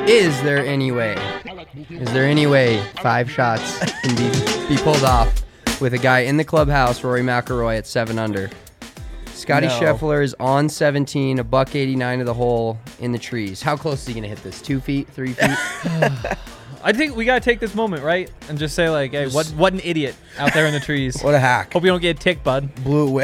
Is there any way? Is there any way 5 shots can be pulled off with a guy in the clubhouse, Rory McIlroy, at 7 under? Scotty Scheffler is on 17, a $189 to the hole in the trees. How close is he going to hit this? 2 feet, 3 feet? I think we gotta take this moment, right, and just say like, "Hey, what an idiot out there in the trees! What a hack! Hope you don't get ticked, bud." Blew it away.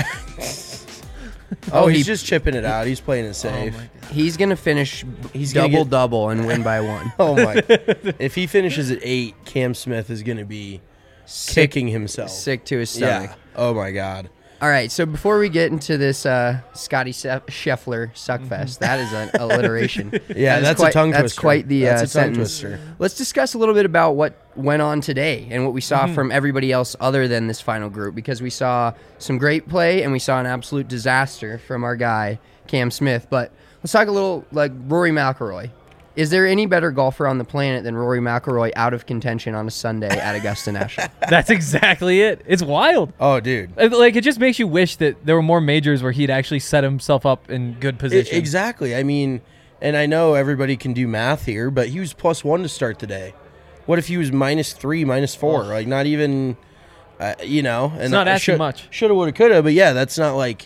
He's just chipping it out. He's playing it safe. He's gonna finish double and win by 1. Oh my! If he finishes at 8, Cam Smith is gonna be kicking himself. Sick to his stomach. Yeah. Oh my God. All right, so before we get into this Scotty Scheffler suckfest, that is an alliteration. Yeah, that's a tongue twister. That's quite the that's a tongue sentence. twister. Let's discuss a little bit about what went on today and what we saw from everybody else other than this final group, because we saw some great play and we saw an absolute disaster from our guy, Cam Smith. But let's talk a little like Rory McIlroy. Is there any better golfer on the planet than Rory McIlroy out of contention on a Sunday at Augusta National? That's exactly it. It's wild. Oh, dude. Like, it just makes you wish that there were more majors where he'd actually set himself up in good position. Exactly. I mean, and I know everybody can do math here, but he was +1 to start the day. What if he was -3, -4? Like, not even, And it's not asking much. Shoulda, woulda, coulda, but yeah, that's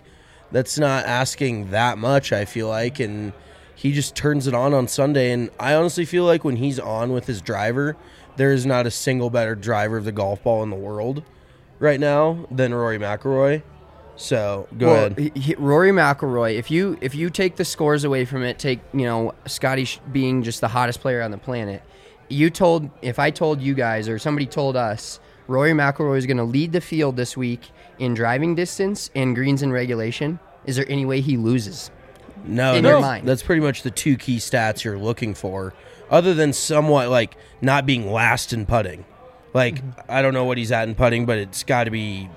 not asking that much, I feel like, and he just turns it on Sunday, and I honestly feel like when he's on with his driver, there is not a single better driver of the golf ball in the world right now than Rory McIlroy. So go ahead. Rory McIlroy. If you take the scores away from it, take Scotty being just the hottest player on the planet. If I told you guys or somebody told us Rory McIlroy is going to lead the field this week in driving distance and greens in regulation, is there any way he loses? No, in your mind. That's pretty much the 2 key stats you're looking for, other than somewhat like not being last in putting. Like, I don't know what he's at in putting, but it's got to be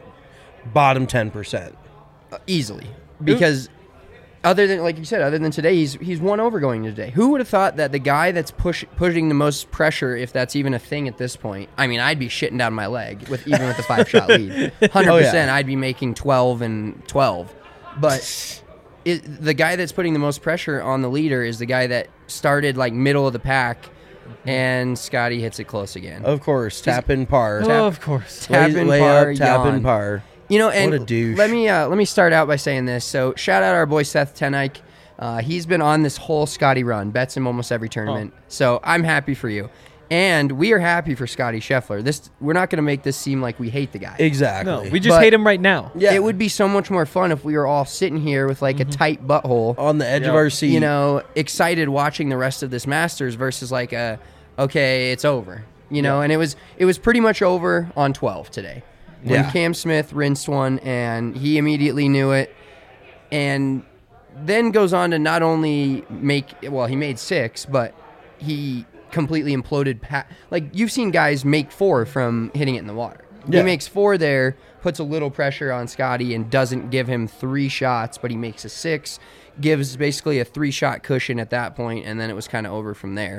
bottom 10%. Easily. Because other than today, he's 1 over going today. Who would have thought that the guy that's pushing the most pressure, if that's even a thing at this point, I mean, I'd be shitting down my leg even with the 5-shot lead. 100%, Oh, yeah. I'd be making 12 and 12. But the guy that's putting the most pressure on the leader is the guy that started like middle of the pack, and Scotty hits it close again. Of course, tap in par. Of course. Tap in lay par, up, tap yawn. in par. And what a douche. let me start out by saying this. So shout out our boy Seth Tenike. He's been on this whole Scotty run, bets him almost every tournament. So I'm happy for you. And we are happy for Scotty Scheffler. We're not going to make this seem like we hate the guy. Exactly. No, we just hate him right now. Yeah. It would be so much more fun if we were all sitting here with like a tight butthole on the edge of our seat. Excited watching the rest of this Masters versus like okay, it's over. And it was pretty much over on 12 today. When Cam Smith rinsed one, and he immediately knew it, and then goes on to not only he made 6, but he completely imploded. Like, you've seen guys make 4 from hitting it in the water. Yeah. He makes 4 there, puts a little pressure on Scotty, and doesn't give him 3 shots, but he makes a 6, gives basically a 3-shot cushion at that point, and then it was kind of over from there.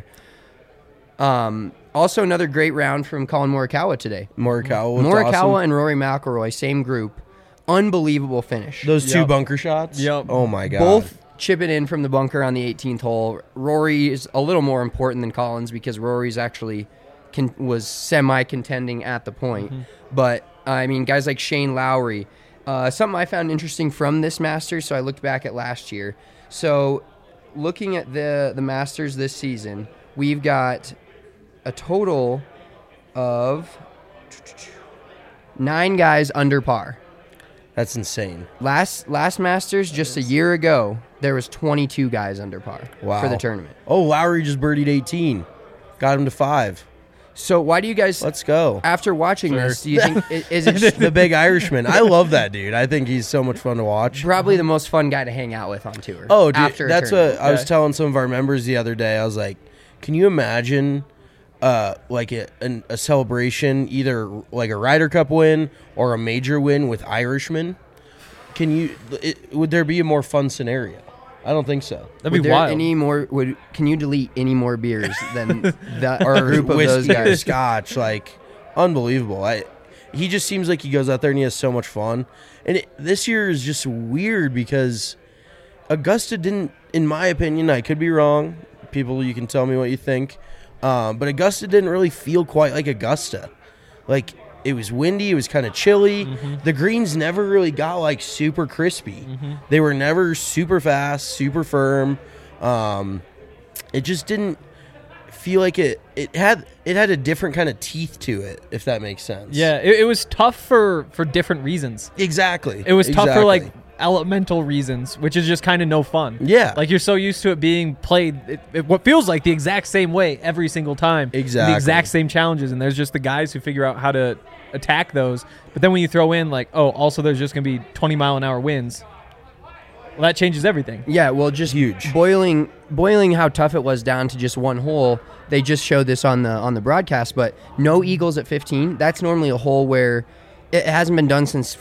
Also, another great round from Colin Morikawa today. Morikawa awesome. And Rory McIlroy, same group. Unbelievable finish. Those 2 bunker shots? Yep. Oh, my God. Both chipping in from the bunker on the 18th hole. Rory is a little more important than Collins because Rory's actually was semi-contending at the point. But, I mean, guys like Shane Lowry. Something I found interesting from this Masters, so I looked back at last year. So, looking at the Masters this season, we've got a total of 9 guys under par. That's insane. Last Masters, just a year ago, there was 22 guys under par for the tournament. Oh, Lowry just birdied 18. Got him to 5. So why do you guys... Let's go. After watching this, do you think... is it the big Irishman? I love that dude. I think he's so much fun to watch. Probably the most fun guy to hang out with on tour. Oh, dude, after that's what I was telling some of our members the other day. I was like, can you imagine... like a celebration, either like a Ryder Cup win or a major win with Irishmen? Would there be a more fun scenario? I don't think so. That'd be wild. Can you delete any more beers than that or group of those guys? Scotch, like unbelievable. He just seems like he goes out there and he has so much fun. And this year is just weird because Augusta didn't, in my opinion, I could be wrong. People, you can tell me what you think. But Augusta didn't really feel quite like Augusta. Like, it was windy. It was kind of chilly. The greens never really got, like, super crispy. They were never super fast, super firm. It just didn't feel like it had a different kind of teeth to it, if that makes sense. Yeah, it was tough for different reasons. Exactly. It was tough for, like, elemental reasons, which is just kind of no fun. Yeah. Like, you're so used to it being played what feels like the exact same way every single time. Exactly. The exact same challenges, and there's just the guys who figure out how to attack those. But then when you throw in, like, oh, also there's just going to be 20-mile-an-hour winds, well, that changes everything. Yeah, well, just huge. Boiling how tough it was down to just one hole. They just showed this on the broadcast, but no eagles at 15. That's normally a hole where it hasn't been done since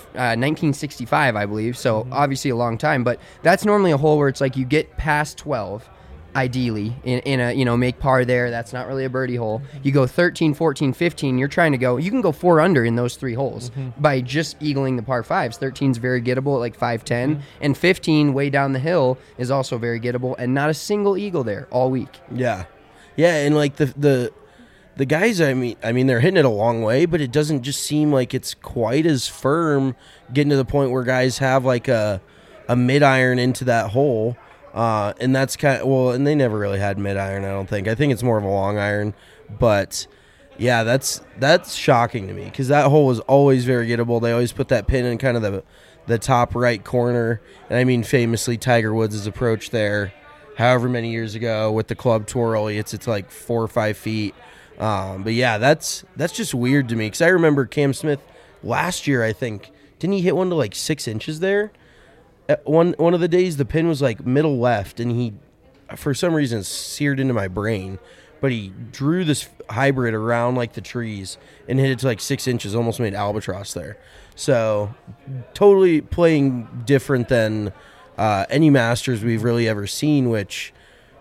1965, I believe. So obviously a long time, but that's normally a hole where it's like you get past 12, ideally in a make par there. That's not really a birdie hole. You go 13, 14, 15. You're trying to go. You can go 4 under in those 3 holes by just eagling the par 5s. 13 is very gettable at like 510, and 15 way down the hill is also very gettable, and not a single eagle there all week. Yeah, and like the guys, I mean, they're hitting it a long way, but it doesn't just seem like it's quite as firm, getting to the point where guys have like a mid iron into that hole. And that's kind of, and they never really had mid iron, I don't think. I think it's more of a long iron, but yeah, that's shocking to me because that hole was always very gettable. They always put that pin in kind of the top right corner, and I mean, famously, Tiger Woods' approach there, however many years ago with the club twirl, it's like 4 or 5 feet. But yeah, that's just weird to me because I remember Cam Smith last year. I think didn't he hit one to like 6 inches there? At one of the days, the pin was like middle left, and he, for some reason, seared into my brain. But he drew this hybrid around like the trees and hit it to like 6 inches, almost made albatross there. So totally playing different than any Masters we've really ever seen. Which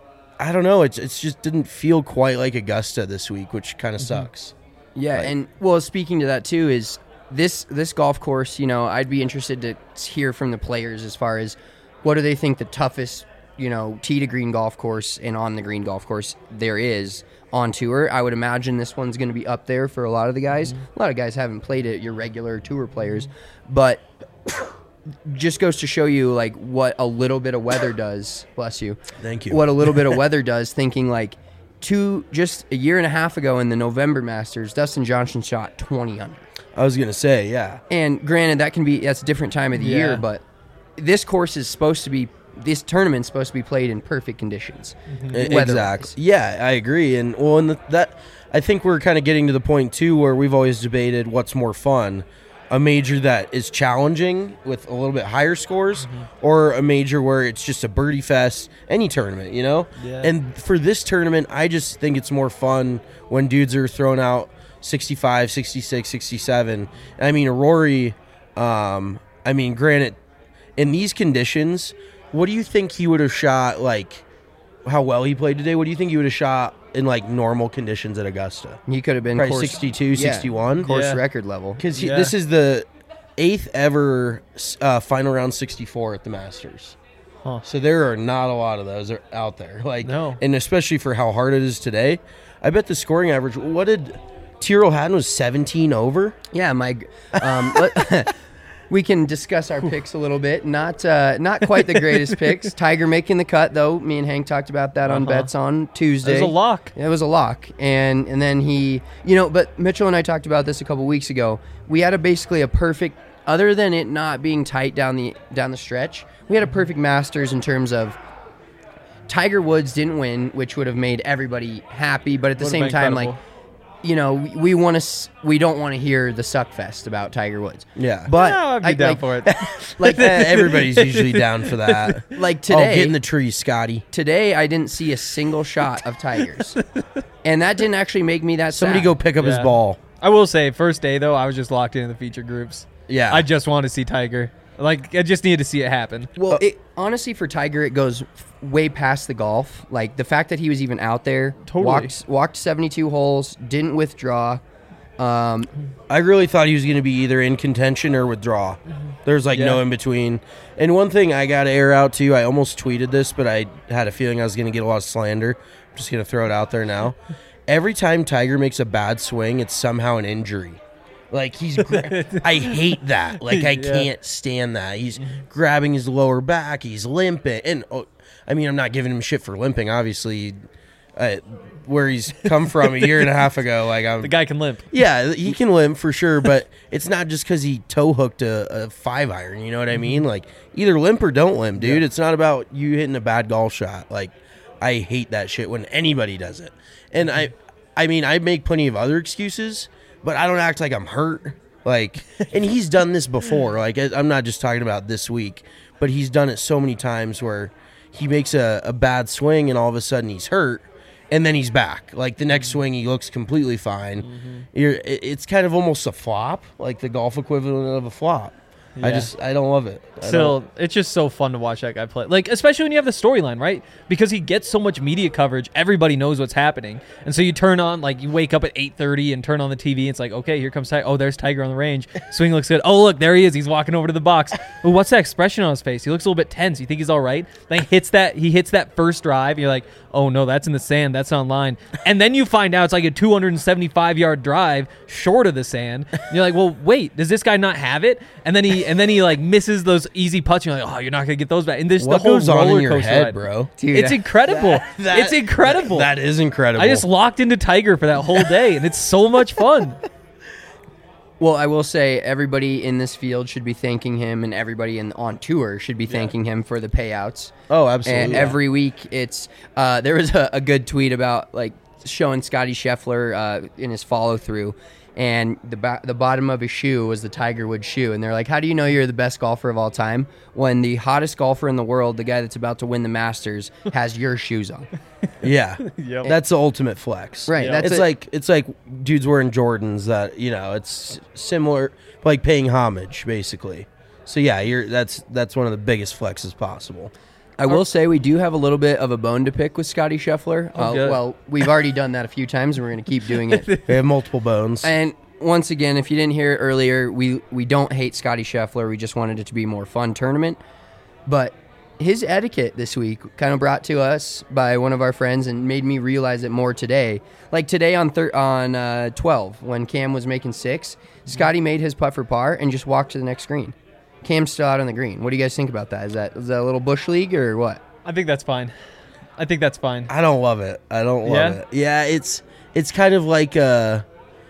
I don't know. It's just didn't feel quite like Augusta this week, which kind of sucks. Yeah, and well, speaking to that too is. This golf course, I'd be interested to hear from the players as far as what do they think the toughest, tee to green golf course and on the green golf course there is on tour. I would imagine this one's going to be up there for a lot of the guys. A lot of guys haven't played it, your regular tour players, but just goes to show you like what a little bit of weather does. Bless you. Thank you. What a little bit of weather does. Thinking like just a year and a half ago in the November Masters, Dustin Johnson shot 20 under. I was gonna say, yeah. And granted, that's a different time of the year, but this tournament's supposed to be played in perfect conditions. Exactly. Yeah, I agree. And that I think we're kind of getting to the point too where we've always debated what's more fun, a major that is challenging with a little bit higher scores, or a major where it's just a birdie fest, any tournament, Yeah. And for this tournament, I just think it's more fun when dudes are throwing out 65, 66, 67. I mean, Rory, granted, in these conditions, what do you think he would have shot, like, how well he played today? What do you think he would have shot in, like, normal conditions at Augusta? He could have been probably 62, 61? Course record level. Because this is the 8th ever final round 64 at the Masters. Huh. So there are not a lot of those out there. Like, no. And especially for how hard it is today. I bet the scoring average, what did... Tyrrell Hatton was 17 over. Yeah, we can discuss our picks a little bit. Not quite the greatest picks. Tiger making the cut, though. Me and Hank talked about that on bets on Tuesday. It was a lock. It was a lock, and then he, But Mitchell and I talked about this a couple weeks ago. We had basically a perfect, other than it not being tight down the stretch. We had a perfect Masters in terms of Tiger Woods didn't win, which would have made everybody happy, but at the same time, incredible. we don't want to hear the suck fest about Tiger Woods. Yeah. But I'd be down for it. Everybody's usually down for that. Like today. Get in the tree, Scotty. Today, I didn't see a single shot of Tiger's. And that didn't actually make me that Somebody sad. go pick up his ball. I will say, first day, though, I was just locked into the feature groups. Yeah. I just want to see Tiger. Like, I just needed to see it happen. Well, honestly, for Tiger, it goes way past the golf. Like, the fact that he was even out there, Totally. walked 72 holes, didn't withdraw, I really thought he was going to be either in contention or withdraw. There's like no in between. And one thing I got to air out too, I almost tweeted this, but I had a feeling I was going to get a lot of slander. I'm just going to throw it out there now. Every time Tiger makes a bad swing, it's somehow an injury. Like I hate that. Like I can't stand that. He's grabbing his lower back. He's limping. And I mean, I'm not giving him shit for limping, obviously. Where he's come from a year and a half ago, like the guy can limp. Yeah, he can limp for sure, but it's not just because he toe hooked a 5-iron. You know what I mean? Like either limp or don't limp, dude. Yeah. It's not about you hitting a bad golf shot. Like I hate that shit when anybody does it. And I mean, I make plenty of other excuses, but I don't act like I'm hurt. Like, and he's done this before. Like I'm not just talking about this week, but he's done it so many times where he makes a bad swing and all of a sudden he's hurt. And then he's back. Like the next swing, he looks completely fine. It's kind of almost a flop, like the golf equivalent of a flop. Yeah. I don't love it. Still, it's just so fun to watch that guy play. Like, especially when you have the storyline, right? Because he gets so much media coverage, everybody knows what's happening. And so you turn on, like, you wake up at 8:30 and turn on the TV. And it's like, okay, here comes Tiger. Oh, there's Tiger on the range. Swing looks good. Oh, look, there he is. He's walking over to the box. Ooh, what's that expression on his face? He looks a little bit tense. You think he's all right? Then he hits that first drive. You're like, oh, no, that's in the sand. That's on line. And then you find out it's like a 275-yard drive short of the sand. And you're like, well, wait, does this guy not have it? And then he like misses those easy putts. You're like, oh, you're not gonna get those back. And this what the whole goes on roller in your coaster head, ride. bro? Dude, it's incredible. It's incredible. That is incredible. I just locked into Tiger for that whole day, and it's so much fun. Well, I will say everybody in this field should be thanking him, and everybody on tour should be thanking him for the payouts. Oh, absolutely. And every week, it's there was a good tweet about like showing Scotty Scheffler in his follow through. And the bottom of his shoe was the Tiger Woods shoe. And they're like, how do you know you're the best golfer of all time when the hottest golfer in the world, the guy that's about to win the Masters, has your shoes on? Yeah. Yep. That's the ultimate flex. Right. Yep. It's like dudes wearing Jordans that, you know, it's similar, like paying homage, basically. So, yeah, that's one of the biggest flexes possible. I will say we do have a little bit of a bone to pick with Scotty Scheffler. Well, we've already done that a few times, and we're going to keep doing it. We have multiple bones. And once again, if you didn't hear it earlier, we don't hate Scotty Scheffler. We just wanted it to be a more fun tournament. But his etiquette this week kind of brought to us by one of our friends and made me realize it more today. Like today on 12, when Cam was making 6, Scotty made his putt for par and just walked to the next green. Cam's still out on the green. What do you guys think about that? Is that a little bush league or what? I think that's fine. I don't love it. I don't love it. Yeah, it's kind of like at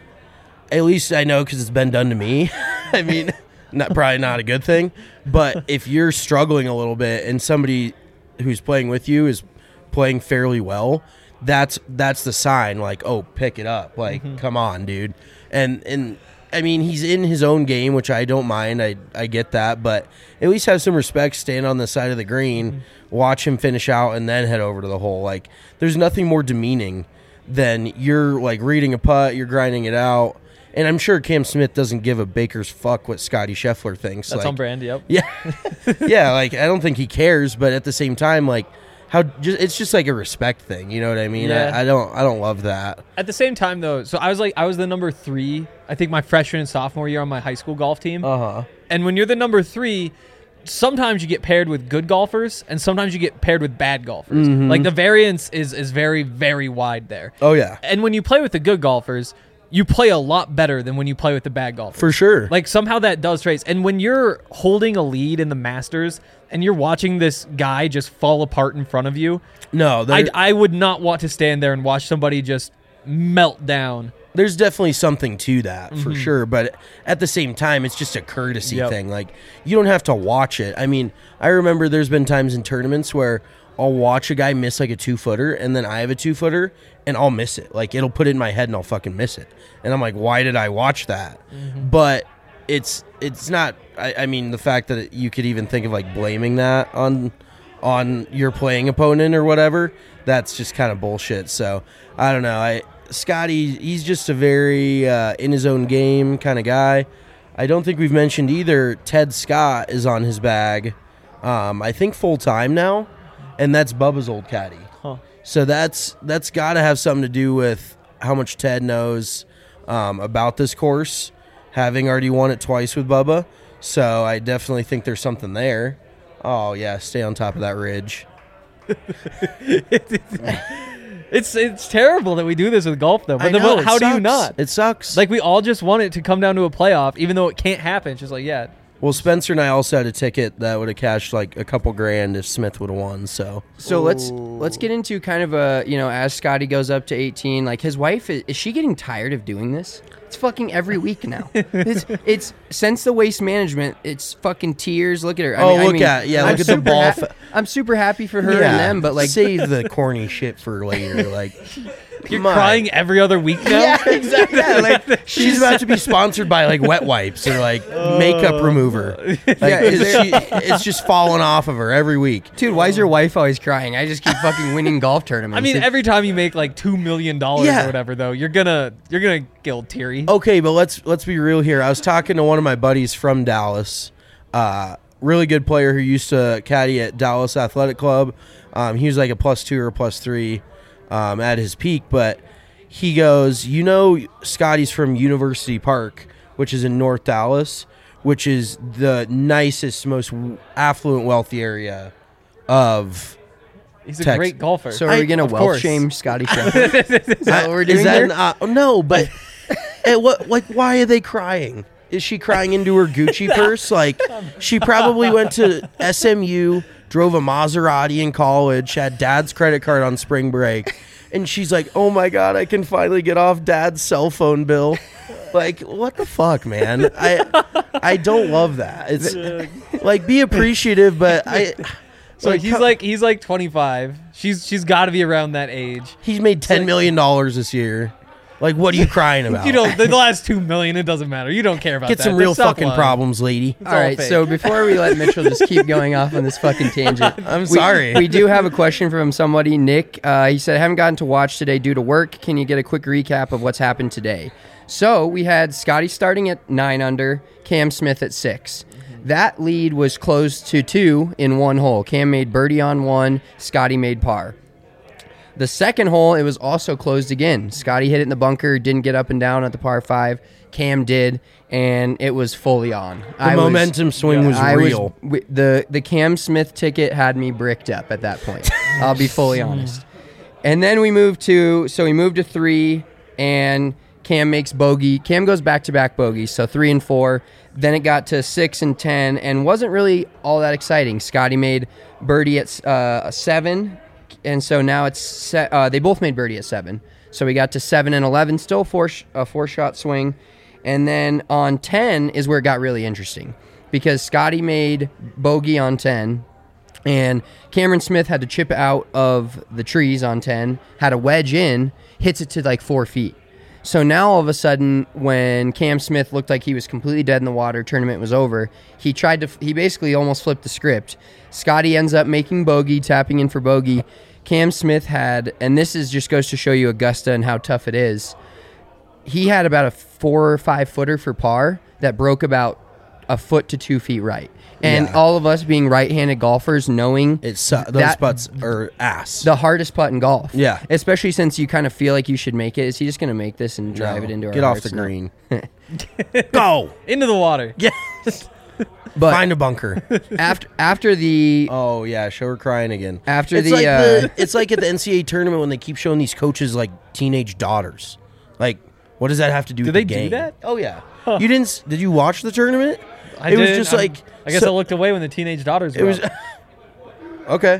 least I know because it's been done to me. I mean, probably not a good thing. But if you're struggling a little bit and somebody who's playing with you is playing fairly well, that's the sign. Like, oh, pick it up. Like, come on, dude. And I mean, he's in his own game, which I don't mind. I get that, but at least have some respect. Stand on the side of the green, watch him finish out, and then head over to the hole. Like, there's nothing more demeaning than you're like reading a putt, you're grinding it out, and I'm sure Cam Smith doesn't give a baker's fuck what Scotty Scheffler thinks. That's like, on brand. Yep. Yeah, yeah. Like, I don't think he cares, but at the same time, like, it's just like a respect thing, you know what I mean? Yeah. I don't love that. At the same time, though, so I was the number 3, I think my freshman and sophomore year on my high school golf team. And when you're the number 3, sometimes you get paired with good golfers, and sometimes you get paired with bad golfers. Like the variance is very, very wide there. Oh yeah. And when you play with the good golfers, you play a lot better than when you play with the bad golfers. For sure. Like somehow that does trace. And when you're holding a lead in the Masters and you're watching this guy just fall apart in front of you, no, I would not want to stand there and watch somebody just melt down. There's definitely something to that for sure, but at the same time, it's just a courtesy thing. Like, you don't have to watch it. I mean, I remember there's been times in tournaments where I'll watch a guy miss like a 2-footer, and then I have a 2-footer, and I'll miss it. Like, it'll put it in my head, and I'll fucking miss it. And I'm like, why did I watch that? But it's not. I mean, the fact that you could even think of like blaming that on your playing opponent or whatever, that's just kind of bullshit. So I don't know. Scotty, he's just a very in his own game kind of guy. I don't think we've mentioned either. Ted Scott is on his bag. I think full time now, and that's Bubba's old caddy. So that's got to have something to do with how much Ted knows. about this course, having already won it twice with Bubba. So I definitely think there's something there. Oh, yeah, stay on top of that ridge. It's terrible that we do this with golf, though. But how do you not? It sucks. Like, we all just want it to come down to a playoff, even though it can't happen. It's just like, yeah. Well, Spencer and I also had a ticket that would have cashed like a couple grand if Smith would have won. So let's get into kind of a, as Scotty goes up to 18, like his wife, is she getting tired of doing this? It's fucking every week now. It's since the Waste Management, it's fucking tears. Look at her. Look at the ball. I'm super happy for her and them, but like save the corny shit for later. Like you're crying every other week now. Yeah, exactly. Yeah, like she's about to be sponsored by like wet wipes or like makeup remover. Like, it's just falling off of her every week. Dude, why is your wife always crying? I just keep fucking winning golf tournaments. I mean, every time you make like $2 million or whatever, though, you're gonna get old teary. Okay, but let's be real here. I was talking to one of my buddies from Dallas, really good player who used to caddy at Dallas Athletic Club. He was like a +2 or +3 at his peak, but he goes, Scotty's from University Park, which is in North Dallas, which is the nicest, most affluent, wealthy area of He's a great golfer. So are we going to wealth shame Scotty Scheffler? Is that what we're doing here? No, but why are they crying? Is she crying into her Gucci purse? Like, she probably went to SMU, drove a Maserati in college, had dad's credit card on spring break, and she's like, oh my God, I can finally get off dad's cell phone bill. Like, what the fuck, man? I don't love that. It's like, be appreciative, but So he's like 25. She's got to be around that age. He's made $10 million this year. Like, what are you crying about? The last $2 million, it doesn't matter. You don't care about that. Get some real fucking problems, lady. All right, so before we let Mitchell just keep going off on this fucking tangent, I'm sorry. We do have a question from somebody, Nick. He said, I haven't gotten to watch today due to work. Can you get a quick recap of what's happened today? So we had Scotty starting at 9 under, Cam Smith at 6. That lead was closed to 2 in one hole. Cam made birdie on 1. Scotty made par. The second hole, it was also closed again. Scotty hit it in the bunker, didn't get up and down at the par 5. Cam did, and it was fully on. The momentum swing was real. The Cam Smith ticket had me bricked up at that point. I'll be fully honest. And then we moved to 3, and Cam makes bogey. Cam goes back-to-back bogeys, so 3 and 4. Then it got to 6 and 10, and wasn't really all that exciting. Scotty made birdie at 7. And so now it's they both made birdie at 7. So we got to 7 and 11, still a 4-shot swing. And then on 10 is where it got really interesting because Scotty made bogey on 10, and Cameron Smith had to chip out of the trees on 10, had a wedge in, hits it to like 4 feet. So now all of a sudden, when Cam Smith looked like he was completely dead in the water, tournament was over, he basically almost flipped the script. Scotty ends up making bogey, tapping in for bogey. Cam Smith had, and this just goes to show you Augusta and how tough it is, he had about a 4 or 5 footer for par that broke about a foot to 2 feet right. And all of us being right-handed golfers knowing those putts are ass. The hardest putt in golf. Yeah. Especially since you kind of feel like you should make it. Is he just going to make this and drive it into our Get off hearts? the green. Go. Into the water. Yes. But find a bunker. After the... Oh, yeah. Show her crying again. It's like at the NCAA tournament when they keep showing these coaches like teenage daughters. Like, what does that have to do with the game? Do they do that? Oh, yeah. Huh. Did you watch the tournament? I guess I looked away when the teenage daughters were Okay.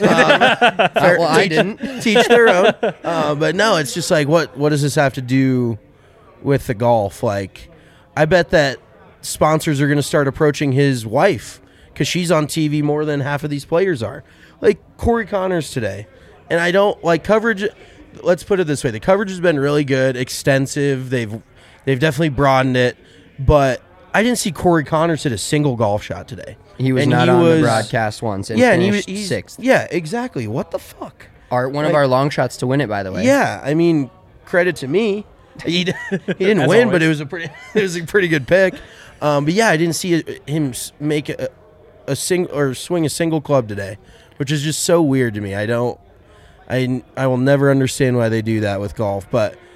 I didn't. Teach their own. But no, it's just like, what does this have to do with the golf? Like, I bet that sponsors are going to start approaching his wife because she's on TV more than half of these players are. Like Corey Connors today. And I don't like coverage. Let's put it this way. The coverage has been really good, extensive. They've definitely broadened it. But I didn't see Corey Connors hit a single golf shot today. He was not on the broadcast once and finished 6th. Yeah, exactly. What the fuck? One of our long shots to win it, by the way. Yeah, I mean, credit to me. He didn't win, but it was a pretty good pick. But yeah, I didn't see him make a swing a single club today, which is just so weird to me. I will never understand why they do that with golf. But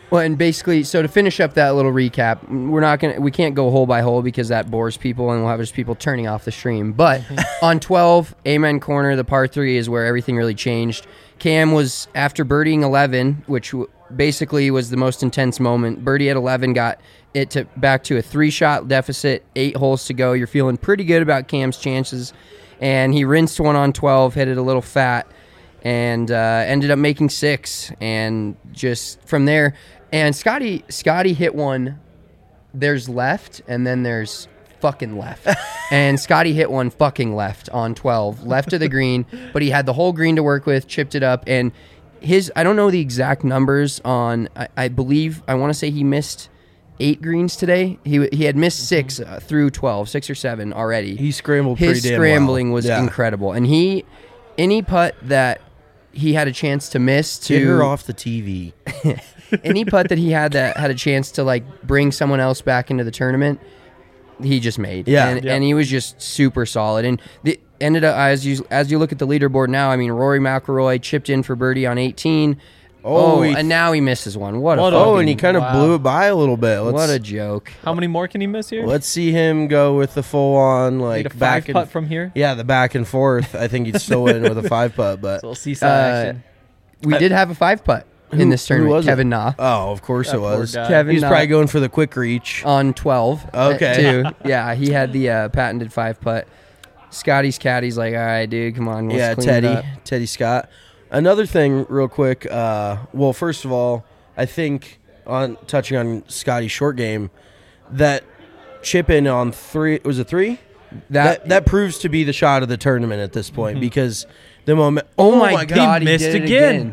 Well, and basically, so to finish up that little recap, we can't go hole by hole because that bores people, and we'll have just people turning off the stream. But on 12, Amen Corner, the par 3 is where everything really changed. Cam was after birdieing 11, which basically was the most intense moment. Birdie at 11 got it back to a 3-shot deficit, 8 holes to go. You're feeling pretty good about Cam's chances, and he rinsed one on 12, hit it a little fat, and ended up making 6, and just from there. And Scotty hit one. There's left, and then there's fucking left. And Scotty hit one fucking left on 12, left of the green, but he had the whole green to work with, chipped it up, and I don't know the exact numbers on, I believe, I want to say he missed 8 greens today. He had missed 6 through 12, 6 or 7 already. He scrambled pretty His damn scrambling well. was incredible. And any putt that he had a chance to miss Get her off the TV. any putt that he had that had a chance to like bring someone else back into the tournament, he just made. Yeah. And he was just super solid. And the ended up as you look at the leaderboard now, I mean, Rory McIlroy chipped in for birdie on 18. And now he misses one. And he kind of blew it by a little bit. What a joke. How many more can he miss here? Let's see him go with the full on like Need a back 5 putt from here. Yeah, the back and forth. I think he'd still win with a 5 putt, but So we'll see some action. We did have a 5 putt in this tournament. was it? Kevin Na Oh, of course That it poor was. guy. Kevin He's Na probably going for the quick reach. on 12. Okay. Too. Yeah, he had the patented 5 putt. Scotty's caddy's like, all right, dude, come on. Let's clean it up." Teddy Scott. Another thing, real quick. Well, first of all, I think touching on Scotty's short game, that chip in on 3 was it 3? That proves to be the shot of the tournament at this point because the moment. Oh my God, he missed did it again.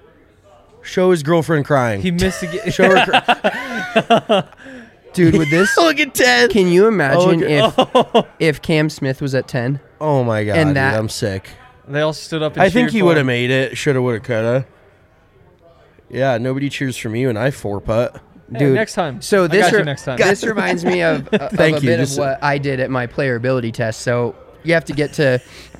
Show his girlfriend crying. He missed again. Show her. Dude, with this, Look at 10. can you imagine look if Cam Smith was at 10? Oh my God, And dude, that- I'm sick. They all stood up and I think cheered he for would have him. made it. Shoulda, woulda, coulda. Yeah, nobody cheers for me when I 4-putt. Hey, Dude, next time. So I this got you next time. this reminds me of a Thank you, bit of just- what I did at my player ability test. So you have to get to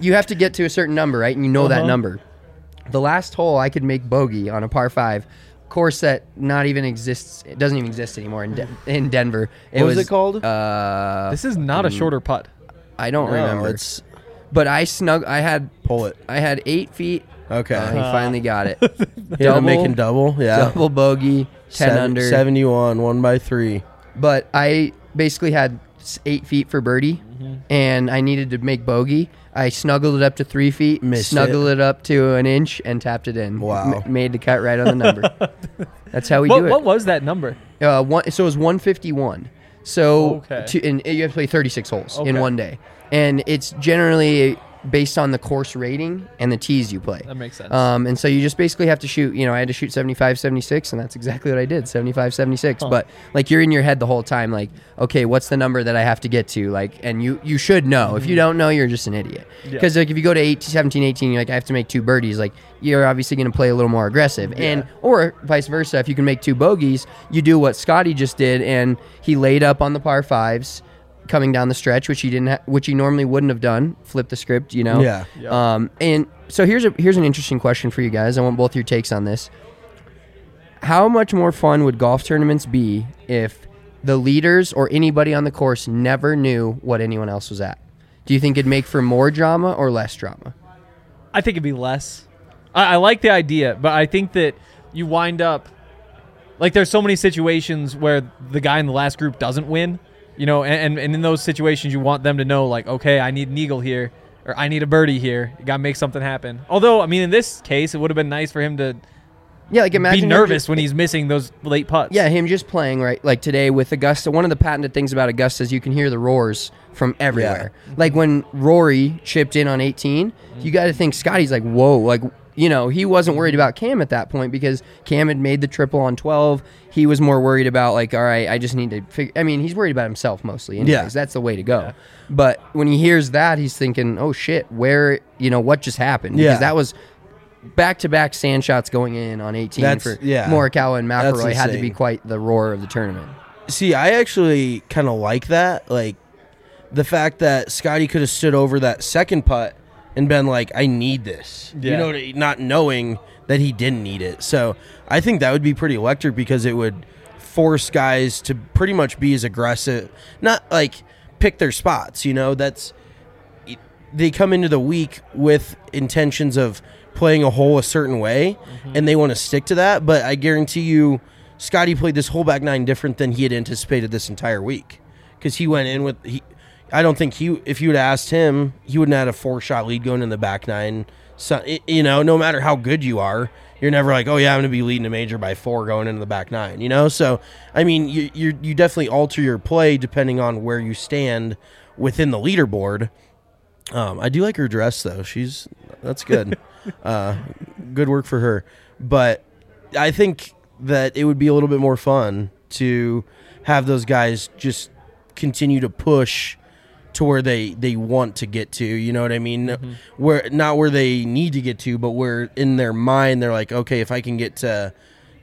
a certain number, right? And you know that number. The last hole I could make bogey on a par 5 course that not even exists. It doesn't even exist anymore in Denver. What was it called? This is not a shorter putt. I don't No, remember. it's But I had pull it. I had 8 feet. Okay. He finally got it. Yeah, making double. Yeah. Double bogey, 10 under. 71, 1x3. But I basically had 8 feet for birdie, and I needed to make bogey. I snuggled it up to 3 feet, Missed snuggled it up to an inch, and tapped it in. Wow. Made the cut right on the number. That's how we do it. What was that number? So it was 151. So Okay. and you have to play 36 holes in Okay. one day. And it's generally based on the course rating and the tees you play. That makes sense. And so you just basically have to shoot, I had to shoot 75, 76, and that's exactly what I did, 75, 76. Huh. But, like, you're in your head the whole time, like, okay, what's the number that I have to get to? Like, and you should know. If you don't know, you're just an idiot. Yeah. Because, like, if you go to 17, 18, you're like, I have to make 2 birdies, like, you're obviously going to play a little more aggressive. Yeah. Or vice versa, if you can make 2 bogeys, you do what Scotty just did, and he laid up on the par 5s, coming down the stretch, which he normally wouldn't have done. Flip the script, Yeah. And so here's an interesting question for you guys. I want both your takes on this. How much more fun would golf tournaments be if the leaders or anybody on the course never knew what anyone else was at? Do you think it'd make for more drama or less drama? I think it'd be less. I like the idea, but I think that you wind up like there's so many situations where the guy in the last group doesn't win, and in those situations you want them to know, like, okay, I need an eagle here, or I need a birdie here. You got to make something happen. Although, I mean, in this case, it would have been nice for him to Yeah, like imagine be him nervous just- when he's missing those late putts. Yeah, him just playing, right? Like today with Augusta, one of the patented things about Augusta is you can hear the roars from everywhere. Like when Rory chipped in on 18, you got to think Scotty's like, whoa, like, he wasn't worried about Cam at that point because Cam had made the triple on 12. He was more worried about, like, all right, I just need to figure. I mean, he's worried about himself mostly. Anyways. Yeah. That's the way to go. But when he hears that, he's thinking, oh, shit, what just happened? Yeah. Because that was back-to-back sand shots going in on 18 for Morikawa and McIlroy had to be insane. quite the roar of the tournament. See, I actually kind of like that. Like, the fact that Scotty could have stood over that second putt and been like, I need this. Yeah. You know, not knowing that he didn't need it. So I think that would be pretty electric because it would force guys to pretty much be as aggressive, not like pick their spots. You know, they come into the week with intentions of playing a hole a certain way, and they want to stick to that. But I guarantee you, Scotty played this whole back nine different than he had anticipated this entire week, because he went in with I don't think if you would have asked him, he wouldn't have had a 4-shot lead going in the back nine. So, you know, no matter how good you are, you're never like, oh yeah, I'm going to be leading a major by 4 going into the back nine. You know, so I mean, you definitely alter your play depending on where you stand within the leaderboard. I do like her dress though. That's good. Good work for her. But I think that it would be a little bit more fun to have those guys just continue to push to where they want to get to, you know what I mean? Where not where they need to get to, but where in their mind they're like, okay, if I can get to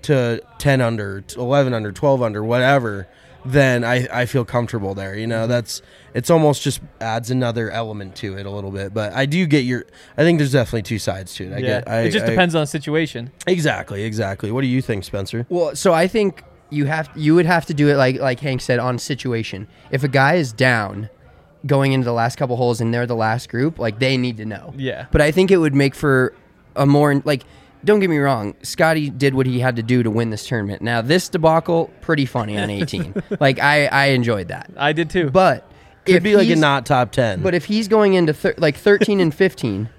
10 under, 11 under, 12 under, whatever, then I feel comfortable there. You know, it's almost just adds another element to it a little bit. But I do get I think there's definitely two sides to it. It just depends on the situation. Exactly. What do you think, Spencer? Well, so I think you would have to do it like Hank said, on situation. If a guy is down going into the last couple holes and they're the last group, like, they need to know. Yeah. But I think it would make for a more, like, don't get me wrong, Scotty did what he had to do to win this tournament. Now, this debacle, pretty funny on 18. Like, I enjoyed that. I did too. But Could be like a not top 10. But if he's going into 13 and 15,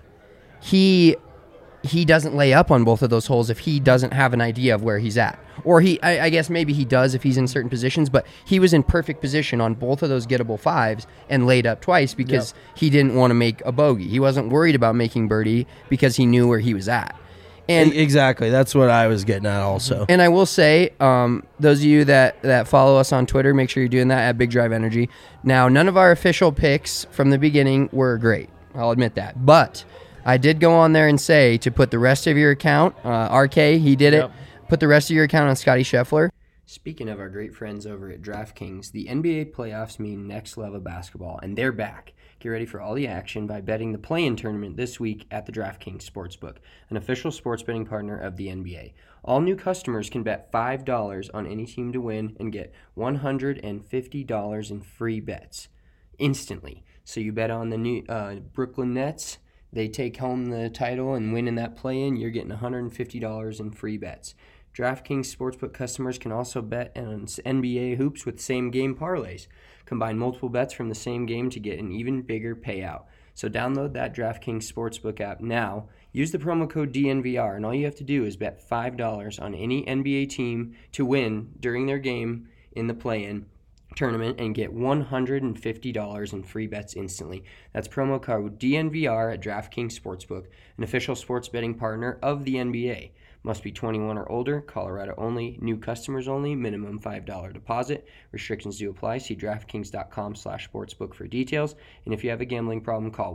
he doesn't lay up on both of those holes if he doesn't have an idea of where he's at. Or I guess maybe he does if he's in certain positions, but he was in perfect position on both of those gettable 5s and laid up twice because he didn't want to make a bogey. He wasn't worried about making birdie because he knew where he was at. And exactly, that's what I was getting at also. And I will say, those of you that follow us on Twitter, make sure you're doing that at Big Drive Energy. Now, none of our official picks from the beginning were great. I'll admit that. But I did go on there and say to put the rest of your account, RK, he did it, put the rest of your account on Scotty Scheffler. Speaking of our great friends over at DraftKings, the NBA playoffs mean next level basketball, and they're back. Get ready for all the action by betting the play-in tournament this week at the DraftKings Sportsbook, an official sports betting partner of the NBA. All new customers can bet $5 on any team to win and get $150 in free bets instantly. So you bet on the new Brooklyn Nets, they take home the title and win in that play-in, you're getting $150 in free bets. DraftKings Sportsbook customers can also bet on NBA hoops with same-game parlays. Combine multiple bets from the same game to get an even bigger payout. So download that DraftKings Sportsbook app now. Use the promo code DNVR, and all you have to do is bet $5 on any NBA team to win during their game in the play-in tournament and get $150 in free bets instantly. That's promo code DNVR at DraftKings Sportsbook, an official sports betting partner of the NBA. Must be 21 or older, Colorado only, new customers only, minimum $5 deposit. Restrictions do apply. See DraftKings.com/sportsbook for details. And if you have a gambling problem, call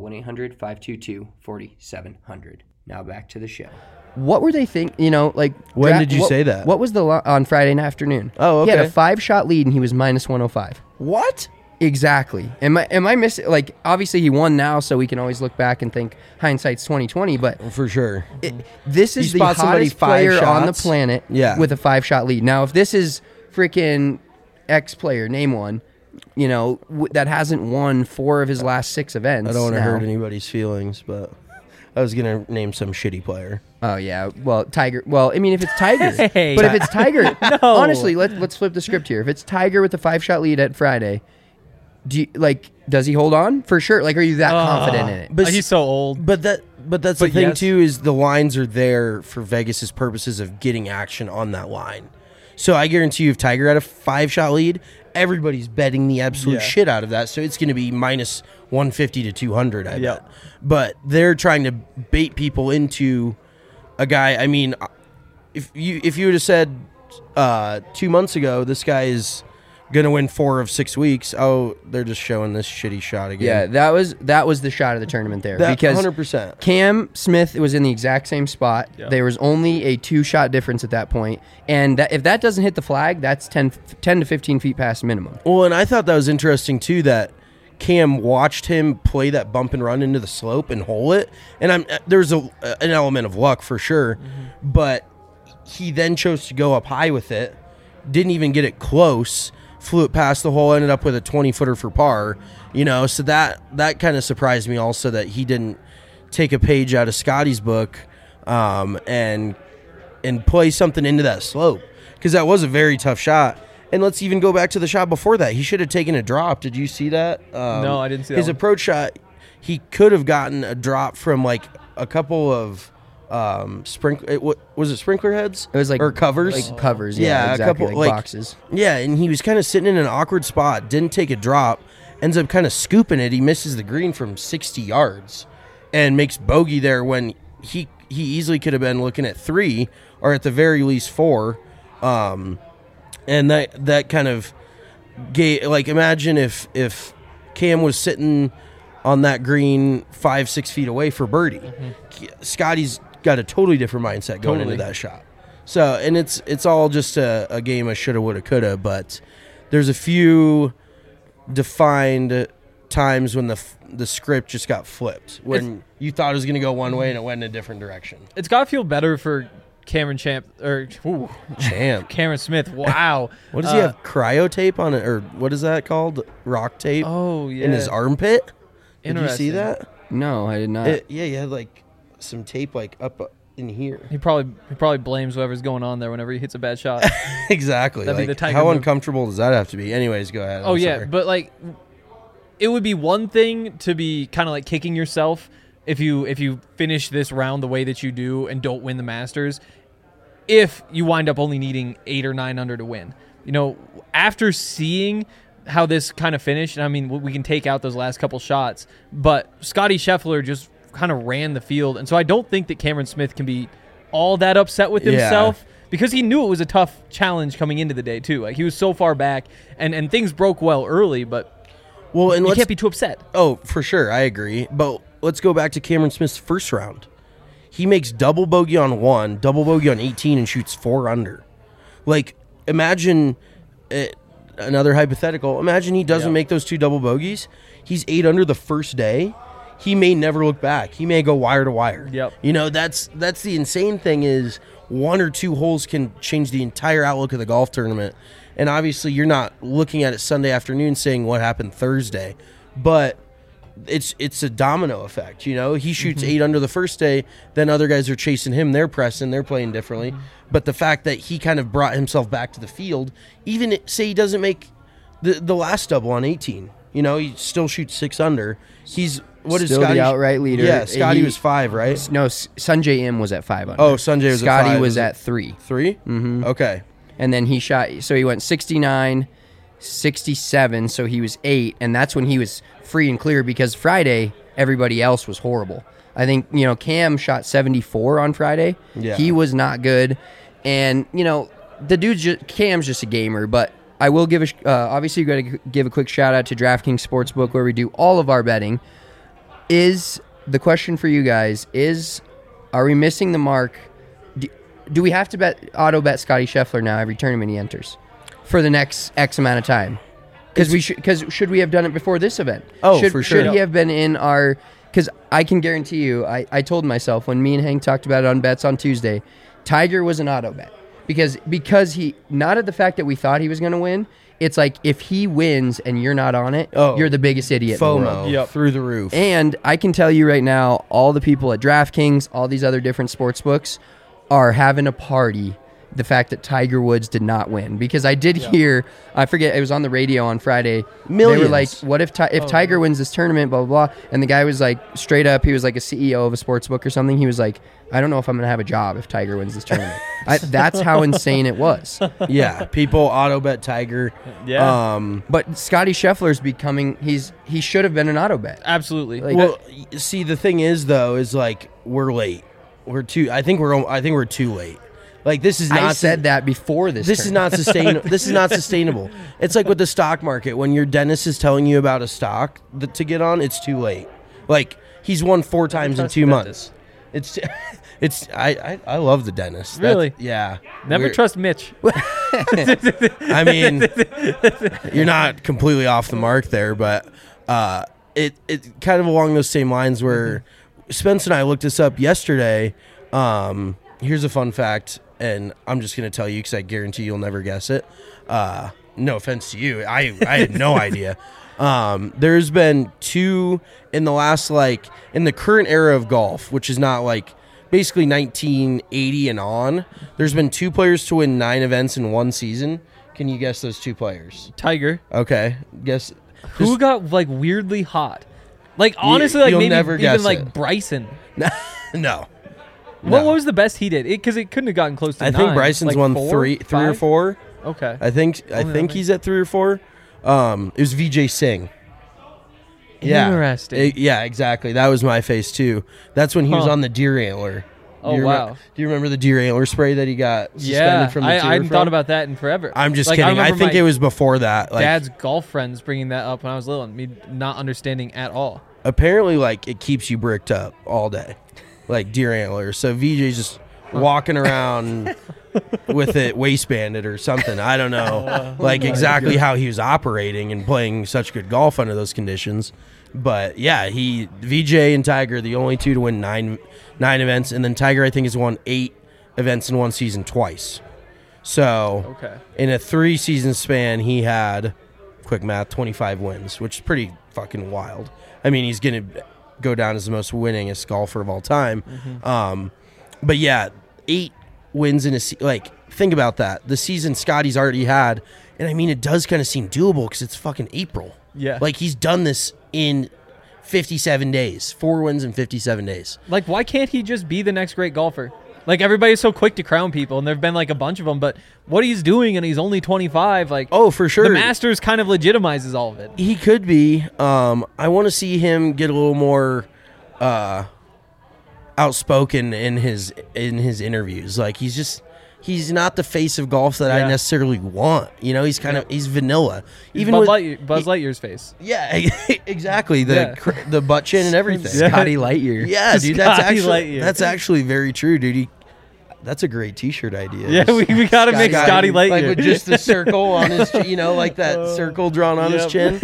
1-800-522-4700. Now back to the show. What were they thinking? You know, like, when did you say that? What was on Friday afternoon? Oh, okay. He had a 5-shot lead and he was minus 105. What? Exactly. Am I missing? Like, obviously he won now, so we can always look back and think hindsight's 20/20. But for sure, this is the hottest player on the planet with a 5-shot lead. Now, if this is freaking X player, name one, you know, that hasn't won 4 of his last 6 events. I don't want to hurt anybody's feelings, but I was gonna name some shitty player. Oh yeah, well Tiger. Well, I mean, if it's Tiger, Hey. but if it's Tiger, No. honestly, let's flip the script here. If it's Tiger with a 5-shot lead at Friday. Does he hold on for sure? Like, are you that confident in it? But he's so old. But that's the thing too, is the lines are there for Vegas's purposes of getting action on that line. So I guarantee you, if Tiger had a 5-shot lead, everybody's betting the absolute shit out of that. So it's going to be minus 150 to 200. I bet. But they're trying to bait people into a guy. I mean, if you would have said 2 months ago, this guy is gonna win 4 of 6 weeks. Oh, they're just showing this shitty shot again. Yeah, that was the shot of the tournament there. Because 100%. Cam Smith was in the exact same spot. Yeah. There was only a 2-shot difference at that point, and if that doesn't hit the flag, that's 10 to 15 feet past minimum. Well, and I thought that was interesting too, that Cam watched him play that bump and run into the slope and hole it, and there's an element of luck for sure, but he then chose to go up high with it, didn't even get it close, flew it past the hole, ended up with a 20-footer for par, so that kind of surprised me also that he didn't take a page out of Scotty's book and play something into that slope, because that was a very tough shot. And let's even go back to the shot before that. He should have taken a drop. Did you see that? No, I didn't see that. His approach shot, he could have gotten a drop from like a couple of was it sprinkler heads? It was like or covers, like covers. Yeah, exactly, a couple like boxes. Yeah, and he was kind of sitting in an awkward spot. Didn't take a drop. Ends up kind of scooping it. He misses the green from 60 yards, and makes bogey there when he easily could have been looking at 3 or at the very least 4. And that kind of gave, like, imagine if Cam was sitting on that green 5-6 feet away for birdie. Scotty's got a totally different mindset going into that shot. So, and it's all just a game of shoulda, woulda, coulda, but there's a few defined times when the script just got flipped, when you thought it was going to go one way and it went in a different direction. It's got to feel better for Cameron Champ. Cameron Smith. Wow. What does he have? Cryo tape on it, or what is that called? Rock tape. Oh yeah. In his armpit. Did you Interesting. see that? No, I did not. Yeah, he had like some tape like up in here. He probably blames whoever's going on there whenever he hits a bad shot. Exactly. That'd be Like, the Tiger how move. uncomfortable does that have to be? Anyways, go ahead. Oh I'm yeah, sorry. but like, it would be one thing to be kind of like kicking yourself if you finish this round the way that you do and don't win the Masters, if you wind up only needing 8 or 9 under to win. After seeing how this kind of finished, and I mean, we can take out those last couple shots, but Scotty Scheffler just kind of ran the field, and so I don't think that Cameron Smith can be all that upset with himself. Because he knew it was a tough challenge coming into the day too. Like, he was so far back, and things broke well early, but you can't be too upset. Oh, for sure, I agree. But let's go back to Cameron Smith's first round. He makes double bogey on 1, double bogey on 18, and shoots 4 under. Like, imagine another hypothetical. Imagine he doesn't make those 2 double bogeys. He's 8 under the first day. He may never look back. He may go wire to wire. Yep. That's the insane thing is 1 or 2 holes can change the entire outlook of the golf tournament. And obviously you're not looking at it Sunday afternoon saying what happened Thursday. But it's a domino effect, He shoots 8 under the first day, then other guys are chasing him, they're pressing, they're playing differently. But the fact that he kind of brought himself back to the field, even say he doesn't make the last double on 18, he still shoots 6 under. He's Still Scotty? the outright leader. Yeah, Scotty was 5, right? No, Sanjay M was at 5 under. Oh, Sanjay was Scotty at 5. was at 3. 3? Mm-hmm. Okay. And then he shot, so he went 69, 67, so he was 8, and that's when he was free and clear, because Friday, everybody else was horrible. I think, Cam shot 74 on Friday. Yeah. He was not good. And, the Cam's just a gamer, but I will give obviously you got to give a quick shout out to DraftKings Sportsbook, where we do all of our betting. The question for you guys are we missing the mark? Do we have to auto bet Scotty Scheffler now every tournament he enters for the next X amount of time? Because should we have done it before this event? Oh, for sure. Should he have been in our? Because I can guarantee you, I told myself when me and Hank talked about it on bets on Tuesday, Tiger was an auto bet because he, not at the fact that we thought he was going to win. It's like, if he wins and you're not on it, you're the biggest idiot in the world. FOMO through the roof. And I can tell you right now, all the people at DraftKings, all these other different sports books are having a party the fact that Tiger Woods did not win. Because I did hear, I forget, it was on the radio on Friday. Millions. They were like, what if Tiger wins this tournament, blah, blah, blah. And the guy was like, straight up, he was like a CEO of a sports book or something. He was like, I don't know if I'm going to have a job if Tiger wins this tournament. That's how insane it was. Yeah, people auto bet Tiger. Yeah. But Scotty Scheffler's becoming, he should have been an auto bet. Absolutely. Like, Well, see, the thing is though, is like we're late. I think we're too late. Like, this is not. I said that before this. This is not sustainable. This is not sustainable. It's like with the stock market. When your dentist is telling you about a stock to get on, it's too late. Like, he's won 4 times in 2 months. I love the dentist. Really? Yeah. Never trust Mitch. I mean, you're not completely off the mark there, but it kind of along those same lines where Spence and I looked this up yesterday. Here's a fun fact, and I'm just going to tell you because I guarantee you'll never guess it. No offense to you. I had no idea. There's been 2 in the last, like, in the current era of golf, which is not like basically 1980 and on. There's been 2 players to win 9 events in one season. Can you guess those 2 players? Tiger. Okay. Guess. Who got like weirdly hot? Like honestly, like you'll maybe never even guess like it. Bryson. No. What was the best he did? Because it couldn't have gotten close to I 9. think Bryson's like won 4, three or 5? 4. Okay. I think he's at 3 or 4. It was Vijay Singh. Yeah. Interesting. Yeah, exactly. That was my face too. That's when he was on the deer antler. Oh, wow. Do you remember the deer antler spray that he got suspended from the tour I hadn't from? thought about that in forever. I'm just Like, kidding. I remember think my it was before that. Like, dad's golf friends bringing that up when I was little and me not understanding at all. apparently, like, it keeps you bricked up all day, like deer antlers. So VJ's just walking around with it waistbanded or something. I don't know, like exactly how he was operating and playing such good golf under those conditions. But yeah, VJ and Tiger, the only 2 to win nine events, and then Tiger I think has won 8 events in one season twice. So in a 3 season span, he had, quick math, 25 wins, which is pretty fucking wild. I mean, he's gonna go down as the most winningest golfer of all time. But yeah, 8 wins in a like, think about that. The season Scotty's already had, and I mean, it does kind of seem doable because it's fucking April. Yeah. Like, he's done this in 57 days. 4 wins in 57 days. Like, why can't he just be the next great golfer? Like, everybody's so quick to crown people, and there have been, like, a bunch of them, but what he's doing, and he's only 25, like... Oh, for sure. The Masters kind of legitimizes all of it. He could be. I want to see him get a little more outspoken in his interviews. Like, he's not the face of golf that I necessarily want. You know, he's kind of he's vanilla. Even Buzz with Lightyear's face. Yeah, exactly. The butt chin and everything. Scotty Lightyear. Yeah, dude, Lightyear. that's actually very true, dude. That's a great T-shirt idea. Yeah, we got to make Scotty Lightyear. Like with just the circle on his, like that circle drawn on his chin.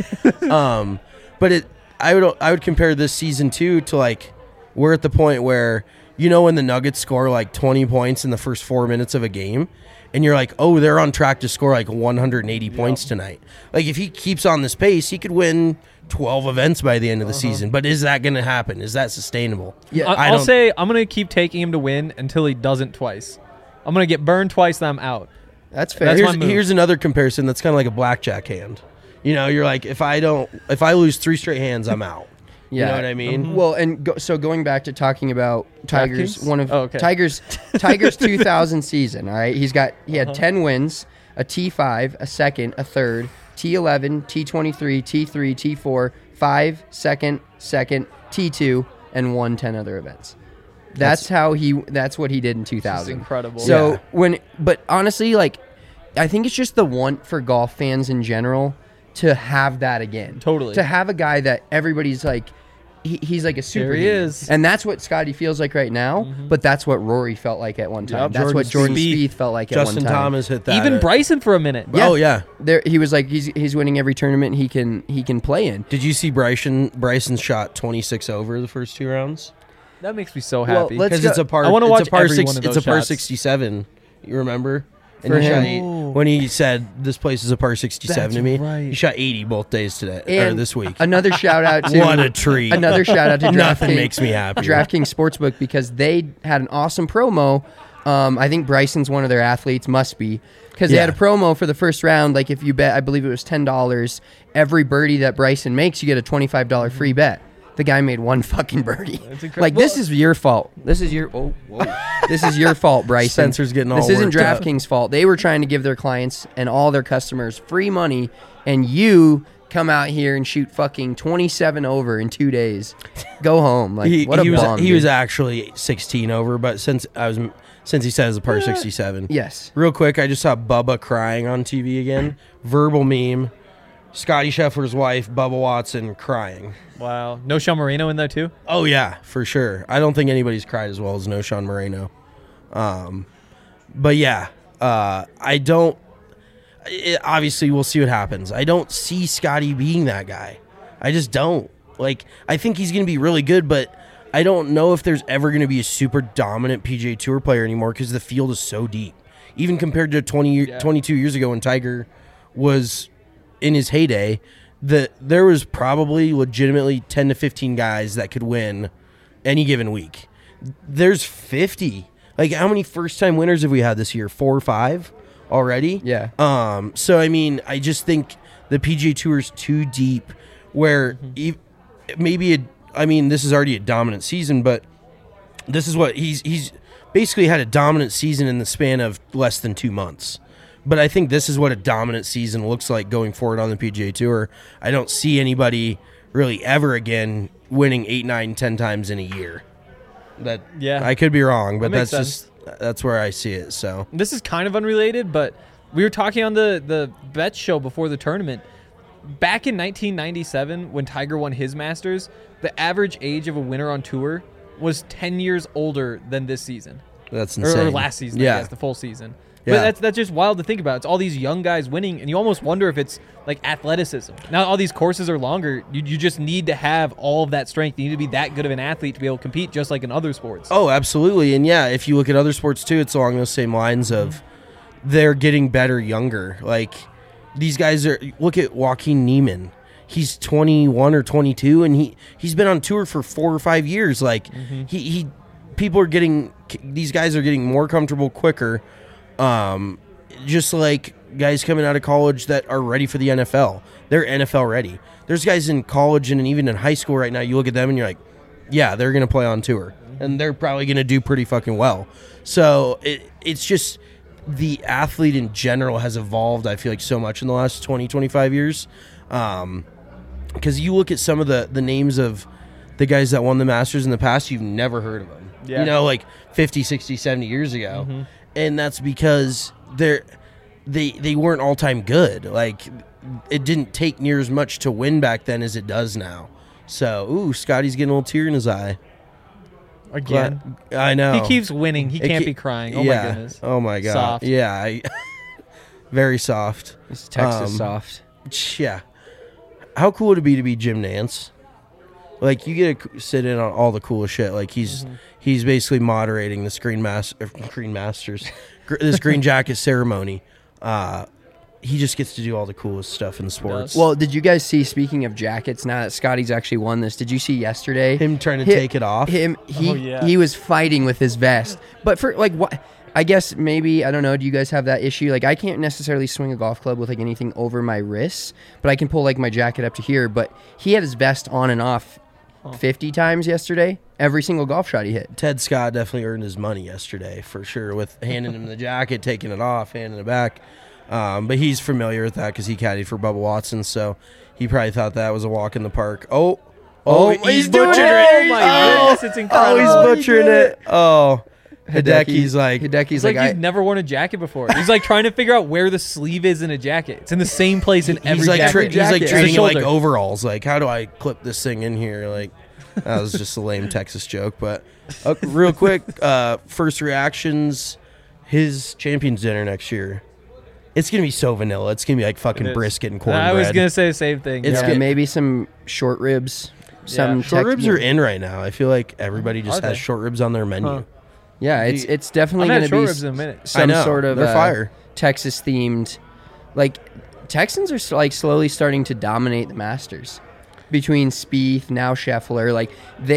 But I would compare this season to like, we're at the point where, when the Nuggets score like 20 points in the first 4 minutes of a game, and you're like, oh, they're on track to score like 180 points tonight. Like, if he keeps on this pace, he could win 12 events by the end of the season. But is that going to happen? Is that sustainable? Yeah, I'll say I'm going to keep taking him to win until he doesn't twice. I'm going to get burned twice, then I'm out. That's fair. Here's another comparison that's kind of like a blackjack hand. You're like, if I lose 3 straight hands, I'm out. Yeah. You know what I mean? Well, and so going back to talking about Tiger's DraftKings? Tiger's 2000 season. All right, he had 10 wins, a T5, a second, a third, T11, T23, T3, T4, 5, second, T2, and won 10 other events. That's what he did in 2000. That's incredible. So but honestly, like, I think it's just the want for golf fans in general to have that again. Totally. To have a guy that everybody's like, he's like a superhero. There he is. And that's what Scotty feels like right now, but that's what Rory felt like at one time. Yep, That's what Jordan Spieth felt like Justin at one time. Thomas hit that. Even Bryson for a minute. Yeah. Oh, yeah. He was like, he's winning every tournament he can play in. Did you see Bryson shot 26 over the first 2 rounds? That makes me so happy. Because it's a par. I want to watch every one of It's those a par shots. 67. You remember? And For he shot him. when he said this place is a par 67 That's to me, right. he shot 80 both days today or And this week. Another shout out to What a treat! Another shout out to Nothing DraftKings. makes me happy. DraftKings Sportsbook, because they had an awesome promo. I think Bryson's one of their athletes, must be, because they had a promo for the first round. Like, if you bet, I believe it was $10, every birdie that Bryson makes, you get a $25 free bet. The guy made one fucking birdie. Like, this is your fault. This is your this is your fault, Bryson. Spencer's getting all This isn't worked up. DraftKings' fault. They were trying to give their clients and all their customers free money, and you come out here and shoot fucking 27 over in 2 days. Go home. Like, what a bum. He dude. was actually 16 over, but since he said it's a par 67. Yes. Real quick, I just saw Bubba crying on TV again. Verbal meme. Scotty Scheffler's wife, Bubba Watson, crying. Wow. No Sean Moreno in there too? Oh, yeah, for sure. I don't think anybody's cried as well as No Sean Moreno. But, yeah, obviously, we'll see what happens. I don't see Scotty being that guy. I just don't. Like, I think he's going to be really good, but I don't know if there's ever going to be a super dominant PGA Tour player anymore because the field is so deep. Even compared to 22 years ago when Tiger was in his heyday, there was probably legitimately 10 to 15 guys that could win any given week. There's 50. Like, how many first-time winners have we had this year? 4 or 5 already? Yeah. So, I mean, I just think the PGA Tour is too deep where this is already a dominant season, but this is what he's basically had a dominant season in the span of less than 2 months. But I think this is what a dominant season looks like going forward on the PGA Tour. I don't see anybody really ever again winning 8, 9, 10 times in a year. I could be wrong, but that's where I see it. So this is kind of unrelated, but we were talking on the bet show before the tournament. Back in 1997, when Tiger won his Masters, the average age of a winner on tour was 10 years older than this season. That's insane. Or last season, I guess, the full season. Yeah. But that's just wild to think about. It's all these young guys winning, and you almost wonder if it's like athleticism. Now all these courses are longer. You just need to have all of that strength. You need to be that good of an athlete to be able to compete, just like in other sports. Oh, absolutely. And yeah, if you look at other sports too, it's along those same lines of they're getting better younger. Like these guys look at Joaquin Niemann. He's 21 or 22, and he's been on tour for 4 or 5 years. Like these guys are getting more comfortable quicker. Just like guys coming out of college that are ready for the NFL. They're NFL ready. There's guys in college and even in high school right now, you look at them and you're like, yeah, they're going to play on tour. And they're probably going to do pretty fucking well. So it's just the athlete in general has evolved, I feel like, so much in the last 20, 25 years. Because you look at some of the names of the guys that won the Masters in the past, you've never heard of them. Yeah. You know, like 50, 60, 70 years ago. Mm-hmm. And that's because they weren't all-time good. Like, it didn't take near as much to win back then as it does now. So, Scotty's getting a little tear in his eye. Again. I know. He keeps winning. He can't be crying. Oh, my goodness. Oh, my God. Soft. Yeah. Very soft. It's Texas soft. Yeah. How cool would it be to be Jim Nance? Like, you get to sit in on all the coolest shit. Like, he's basically moderating this Green Masters, this Green Jacket ceremony. He just gets to do all the coolest stuff in the sports. Well, did you guys see, speaking of jackets, now that Scotty's actually won this, did you see yesterday? Him trying to take it off? He was fighting with his vest. But for, like, what? I guess maybe, I don't know, do you guys have that issue? Like, I can't necessarily swing a golf club with, like, anything over my wrists, but I can pull, like, my jacket up to here. But he had his vest on and off 50 times yesterday. Every single golf shot he hit. Ted Scott definitely earned his money yesterday, for sure, with handing him the jacket, taking it off, handing it back. But he's familiar with that because he caddied for Bubba Watson, so he probably thought that was a walk in the park. Oh, he's butchering it. Oh, my goodness, it's incredible. Oh, he's butchering it. Oh. Hideki's like he's never worn a jacket before. He's like trying to figure out where the sleeve is in a jacket. It's in the same place in every jacket. He's like treating it like overalls. Like, how do I clip this thing in here? Like, that was just a lame Texas joke. But real quick, first reactions. His Champions Dinner next year. It's gonna be so vanilla. It's gonna be like fucking brisket and cornbread. I was gonna say the same thing. Maybe some short ribs. Short ribs are in right now. I feel like everybody just has short ribs on their menu. Huh. Yeah, it's definitely going to be some sort of fire. Texas themed. Like, Texans are like slowly starting to dominate the Masters between Spieth, now Scheffler. Like,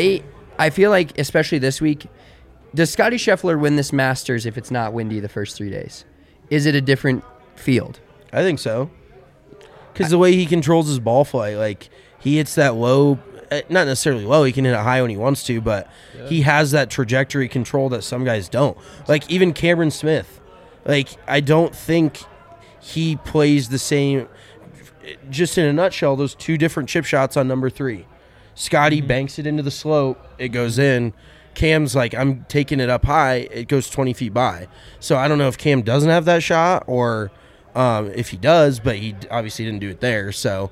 I feel like, especially this week, does Scotty Scheffler win this Masters if it's not windy the first 3 days? Is it a different field? I think so. Because the way he controls his ball flight, like, he hits that low. Not necessarily low, he can hit it high when he wants to, but he has that trajectory control that some guys don't. Like, even Cameron Smith, like, I don't think he plays the same. Just in a nutshell, those 2 different chip shots on number 3. Scotty banks it into the slope, it goes in. Cam's like, I'm taking it up high, it goes 20 feet by. So I don't know if Cam doesn't have that shot or if he does, but he obviously didn't do it there. So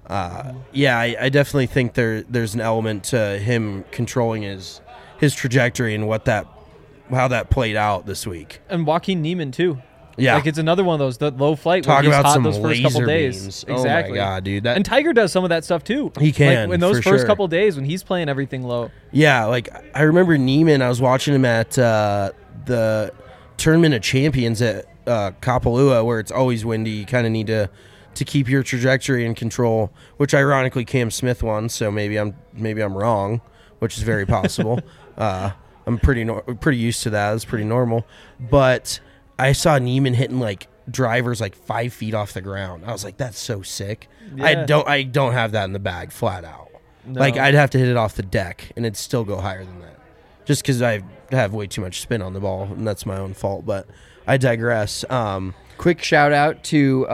I definitely think there's an element to him controlling his trajectory and how that played out this week. And Joaquin Niemann too. Yeah. Like it's another one of those the low flight. Talk where he's about hot some those first couple laser days. beams. Exactly. Oh my god, dude. And Tiger does some of that stuff too. He can, Like in those for first sure. couple days when he's playing everything low. Yeah, like I remember Neiman. I was watching him at the Tournament of Champions at Kapalua, where it's always windy. You kind of need to keep your trajectory in control. Which ironically, Cam Smith won, so maybe I'm wrong, which is very possible. I'm pretty used to that. It's pretty normal. But I saw Neiman hitting like drivers like 5 feet off the ground. I was like, that's so sick. Yeah. I don't have that in the bag flat out. No. Like I'd have to hit it off the deck and it'd still go higher than that. Just because I have way too much spin on the ball, and that's my own fault. But I digress. Quick shout out to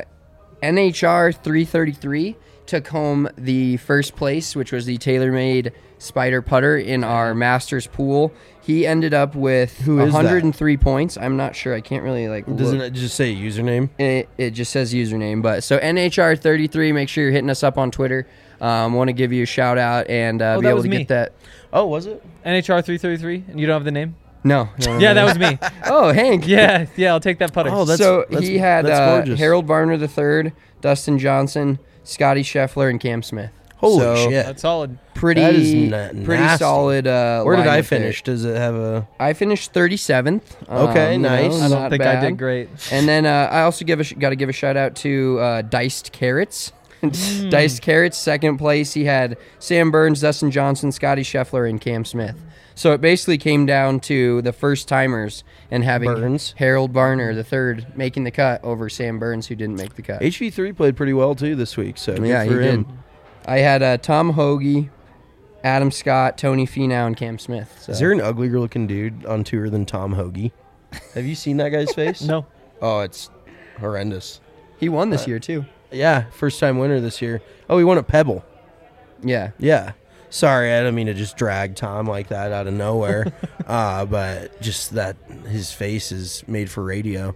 NHR 333 took home the first place, which was the TaylorMade Spider putter in our Masters pool. He ended up with Who is that? 103 points. I'm not sure. I can't really Doesn't look. it just say username? It just says username. But so NHR 33. Make sure you're hitting us up on Twitter. Want to give you a shout out and be that able was to me. get that. Oh, was it? NHR 333, and you don't have the name? No. Yeah, that was me. Oh, Hank. Yeah, I'll take that putter. Oh, So he had that's gorgeous. Harold Varner III, Dustin Johnson, Scotty Scheffler, and Cam Smith. Holy So, shit. That's solid. Pretty, That is pretty nasty. solid. Where did I lineup finish? Does it have a? there. I finished 37th. Okay, nice. I don't not think bad. I did great. And then I also got to give a shout out to Diced Carrots. Diced Carrots, second place. He had Sam Burns, Dustin Johnson, Scotty Scheffler, and Cam Smith. So it basically came down to the first timers and having Burns. Harold Varner III making the cut over Sam Burns, who didn't make the cut. HV3 played pretty well too this week. So Yeah, good he for did. him. I had Tom Hoagie, Adam Scott, Tony Finau, and Cam Smith. So. Is there an uglier looking dude on tour than Tom Hoagie? Have you seen that guy's face? No. Oh, it's horrendous. He won this year too. Yeah, first time winner this year. Oh, he won at Pebble. Yeah. Yeah. Sorry, I don't mean to just drag Tom like that out of nowhere. But just that his face is made for radio.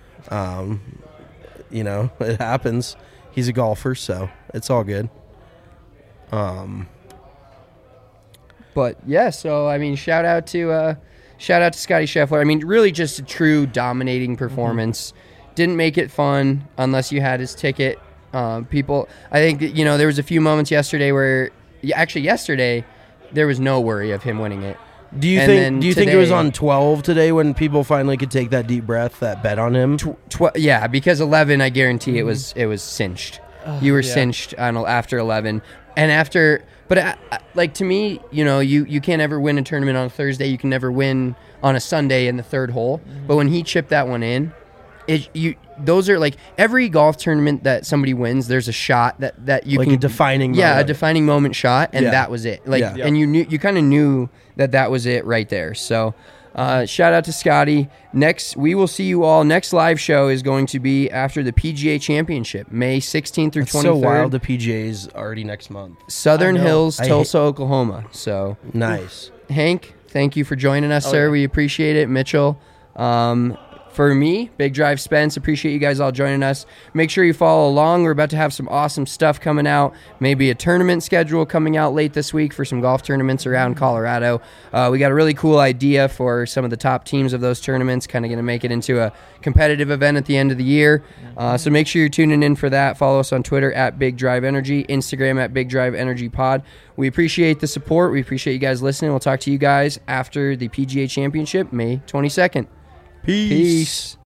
It happens. He's a golfer, so it's all good. But yeah, so I mean, shout out to Scotty Scheffler. I mean, really just a true dominating performance. Didn't make it fun unless you had his ticket. People, I think that, there was a few moments yesterday where, yesterday there was no worry of him winning it. Do you And think? then Do you think it was today- on 12 today when people finally could take that deep breath, that bet on him? Yeah, because 11, I guarantee it was cinched. You were yeah. cinched on after 11, and after. But like to me, you can't ever win a tournament on a Thursday. You can never win on a Sunday in the third hole. But when he chipped that one in, those are like every golf tournament that somebody wins. There's a shot that you Like can a defining yeah, a moment. defining moment shot, and Yeah. that was it. Like, Yeah. and you kind of knew that was it right there. So. Shout out to Scotty. We will see you all. Next live show is going to be after the PGA Championship, May 16th through It's 23rd. so wild. The PGA's already next month. Southern I know. Hills, I Tulsa, Oklahoma. So, Nice. Hank, thank you for joining us, sir. yeah. We appreciate it. Mitchell. For me, Big Drive Spence, appreciate you guys all joining us. Make sure you follow along. We're about to have some awesome stuff coming out. Maybe a tournament schedule coming out late this week for some golf tournaments around Colorado. We got a really cool idea for some of the top teams of those tournaments, kind of going to make it into a competitive event at the end of the year. So make sure you're tuning in for that. Follow us on Twitter at Big Drive Energy, Instagram at Big Drive Energy Pod. We appreciate the support. We appreciate you guys listening. We'll talk to you guys after the PGA Championship, May 22nd. Peace.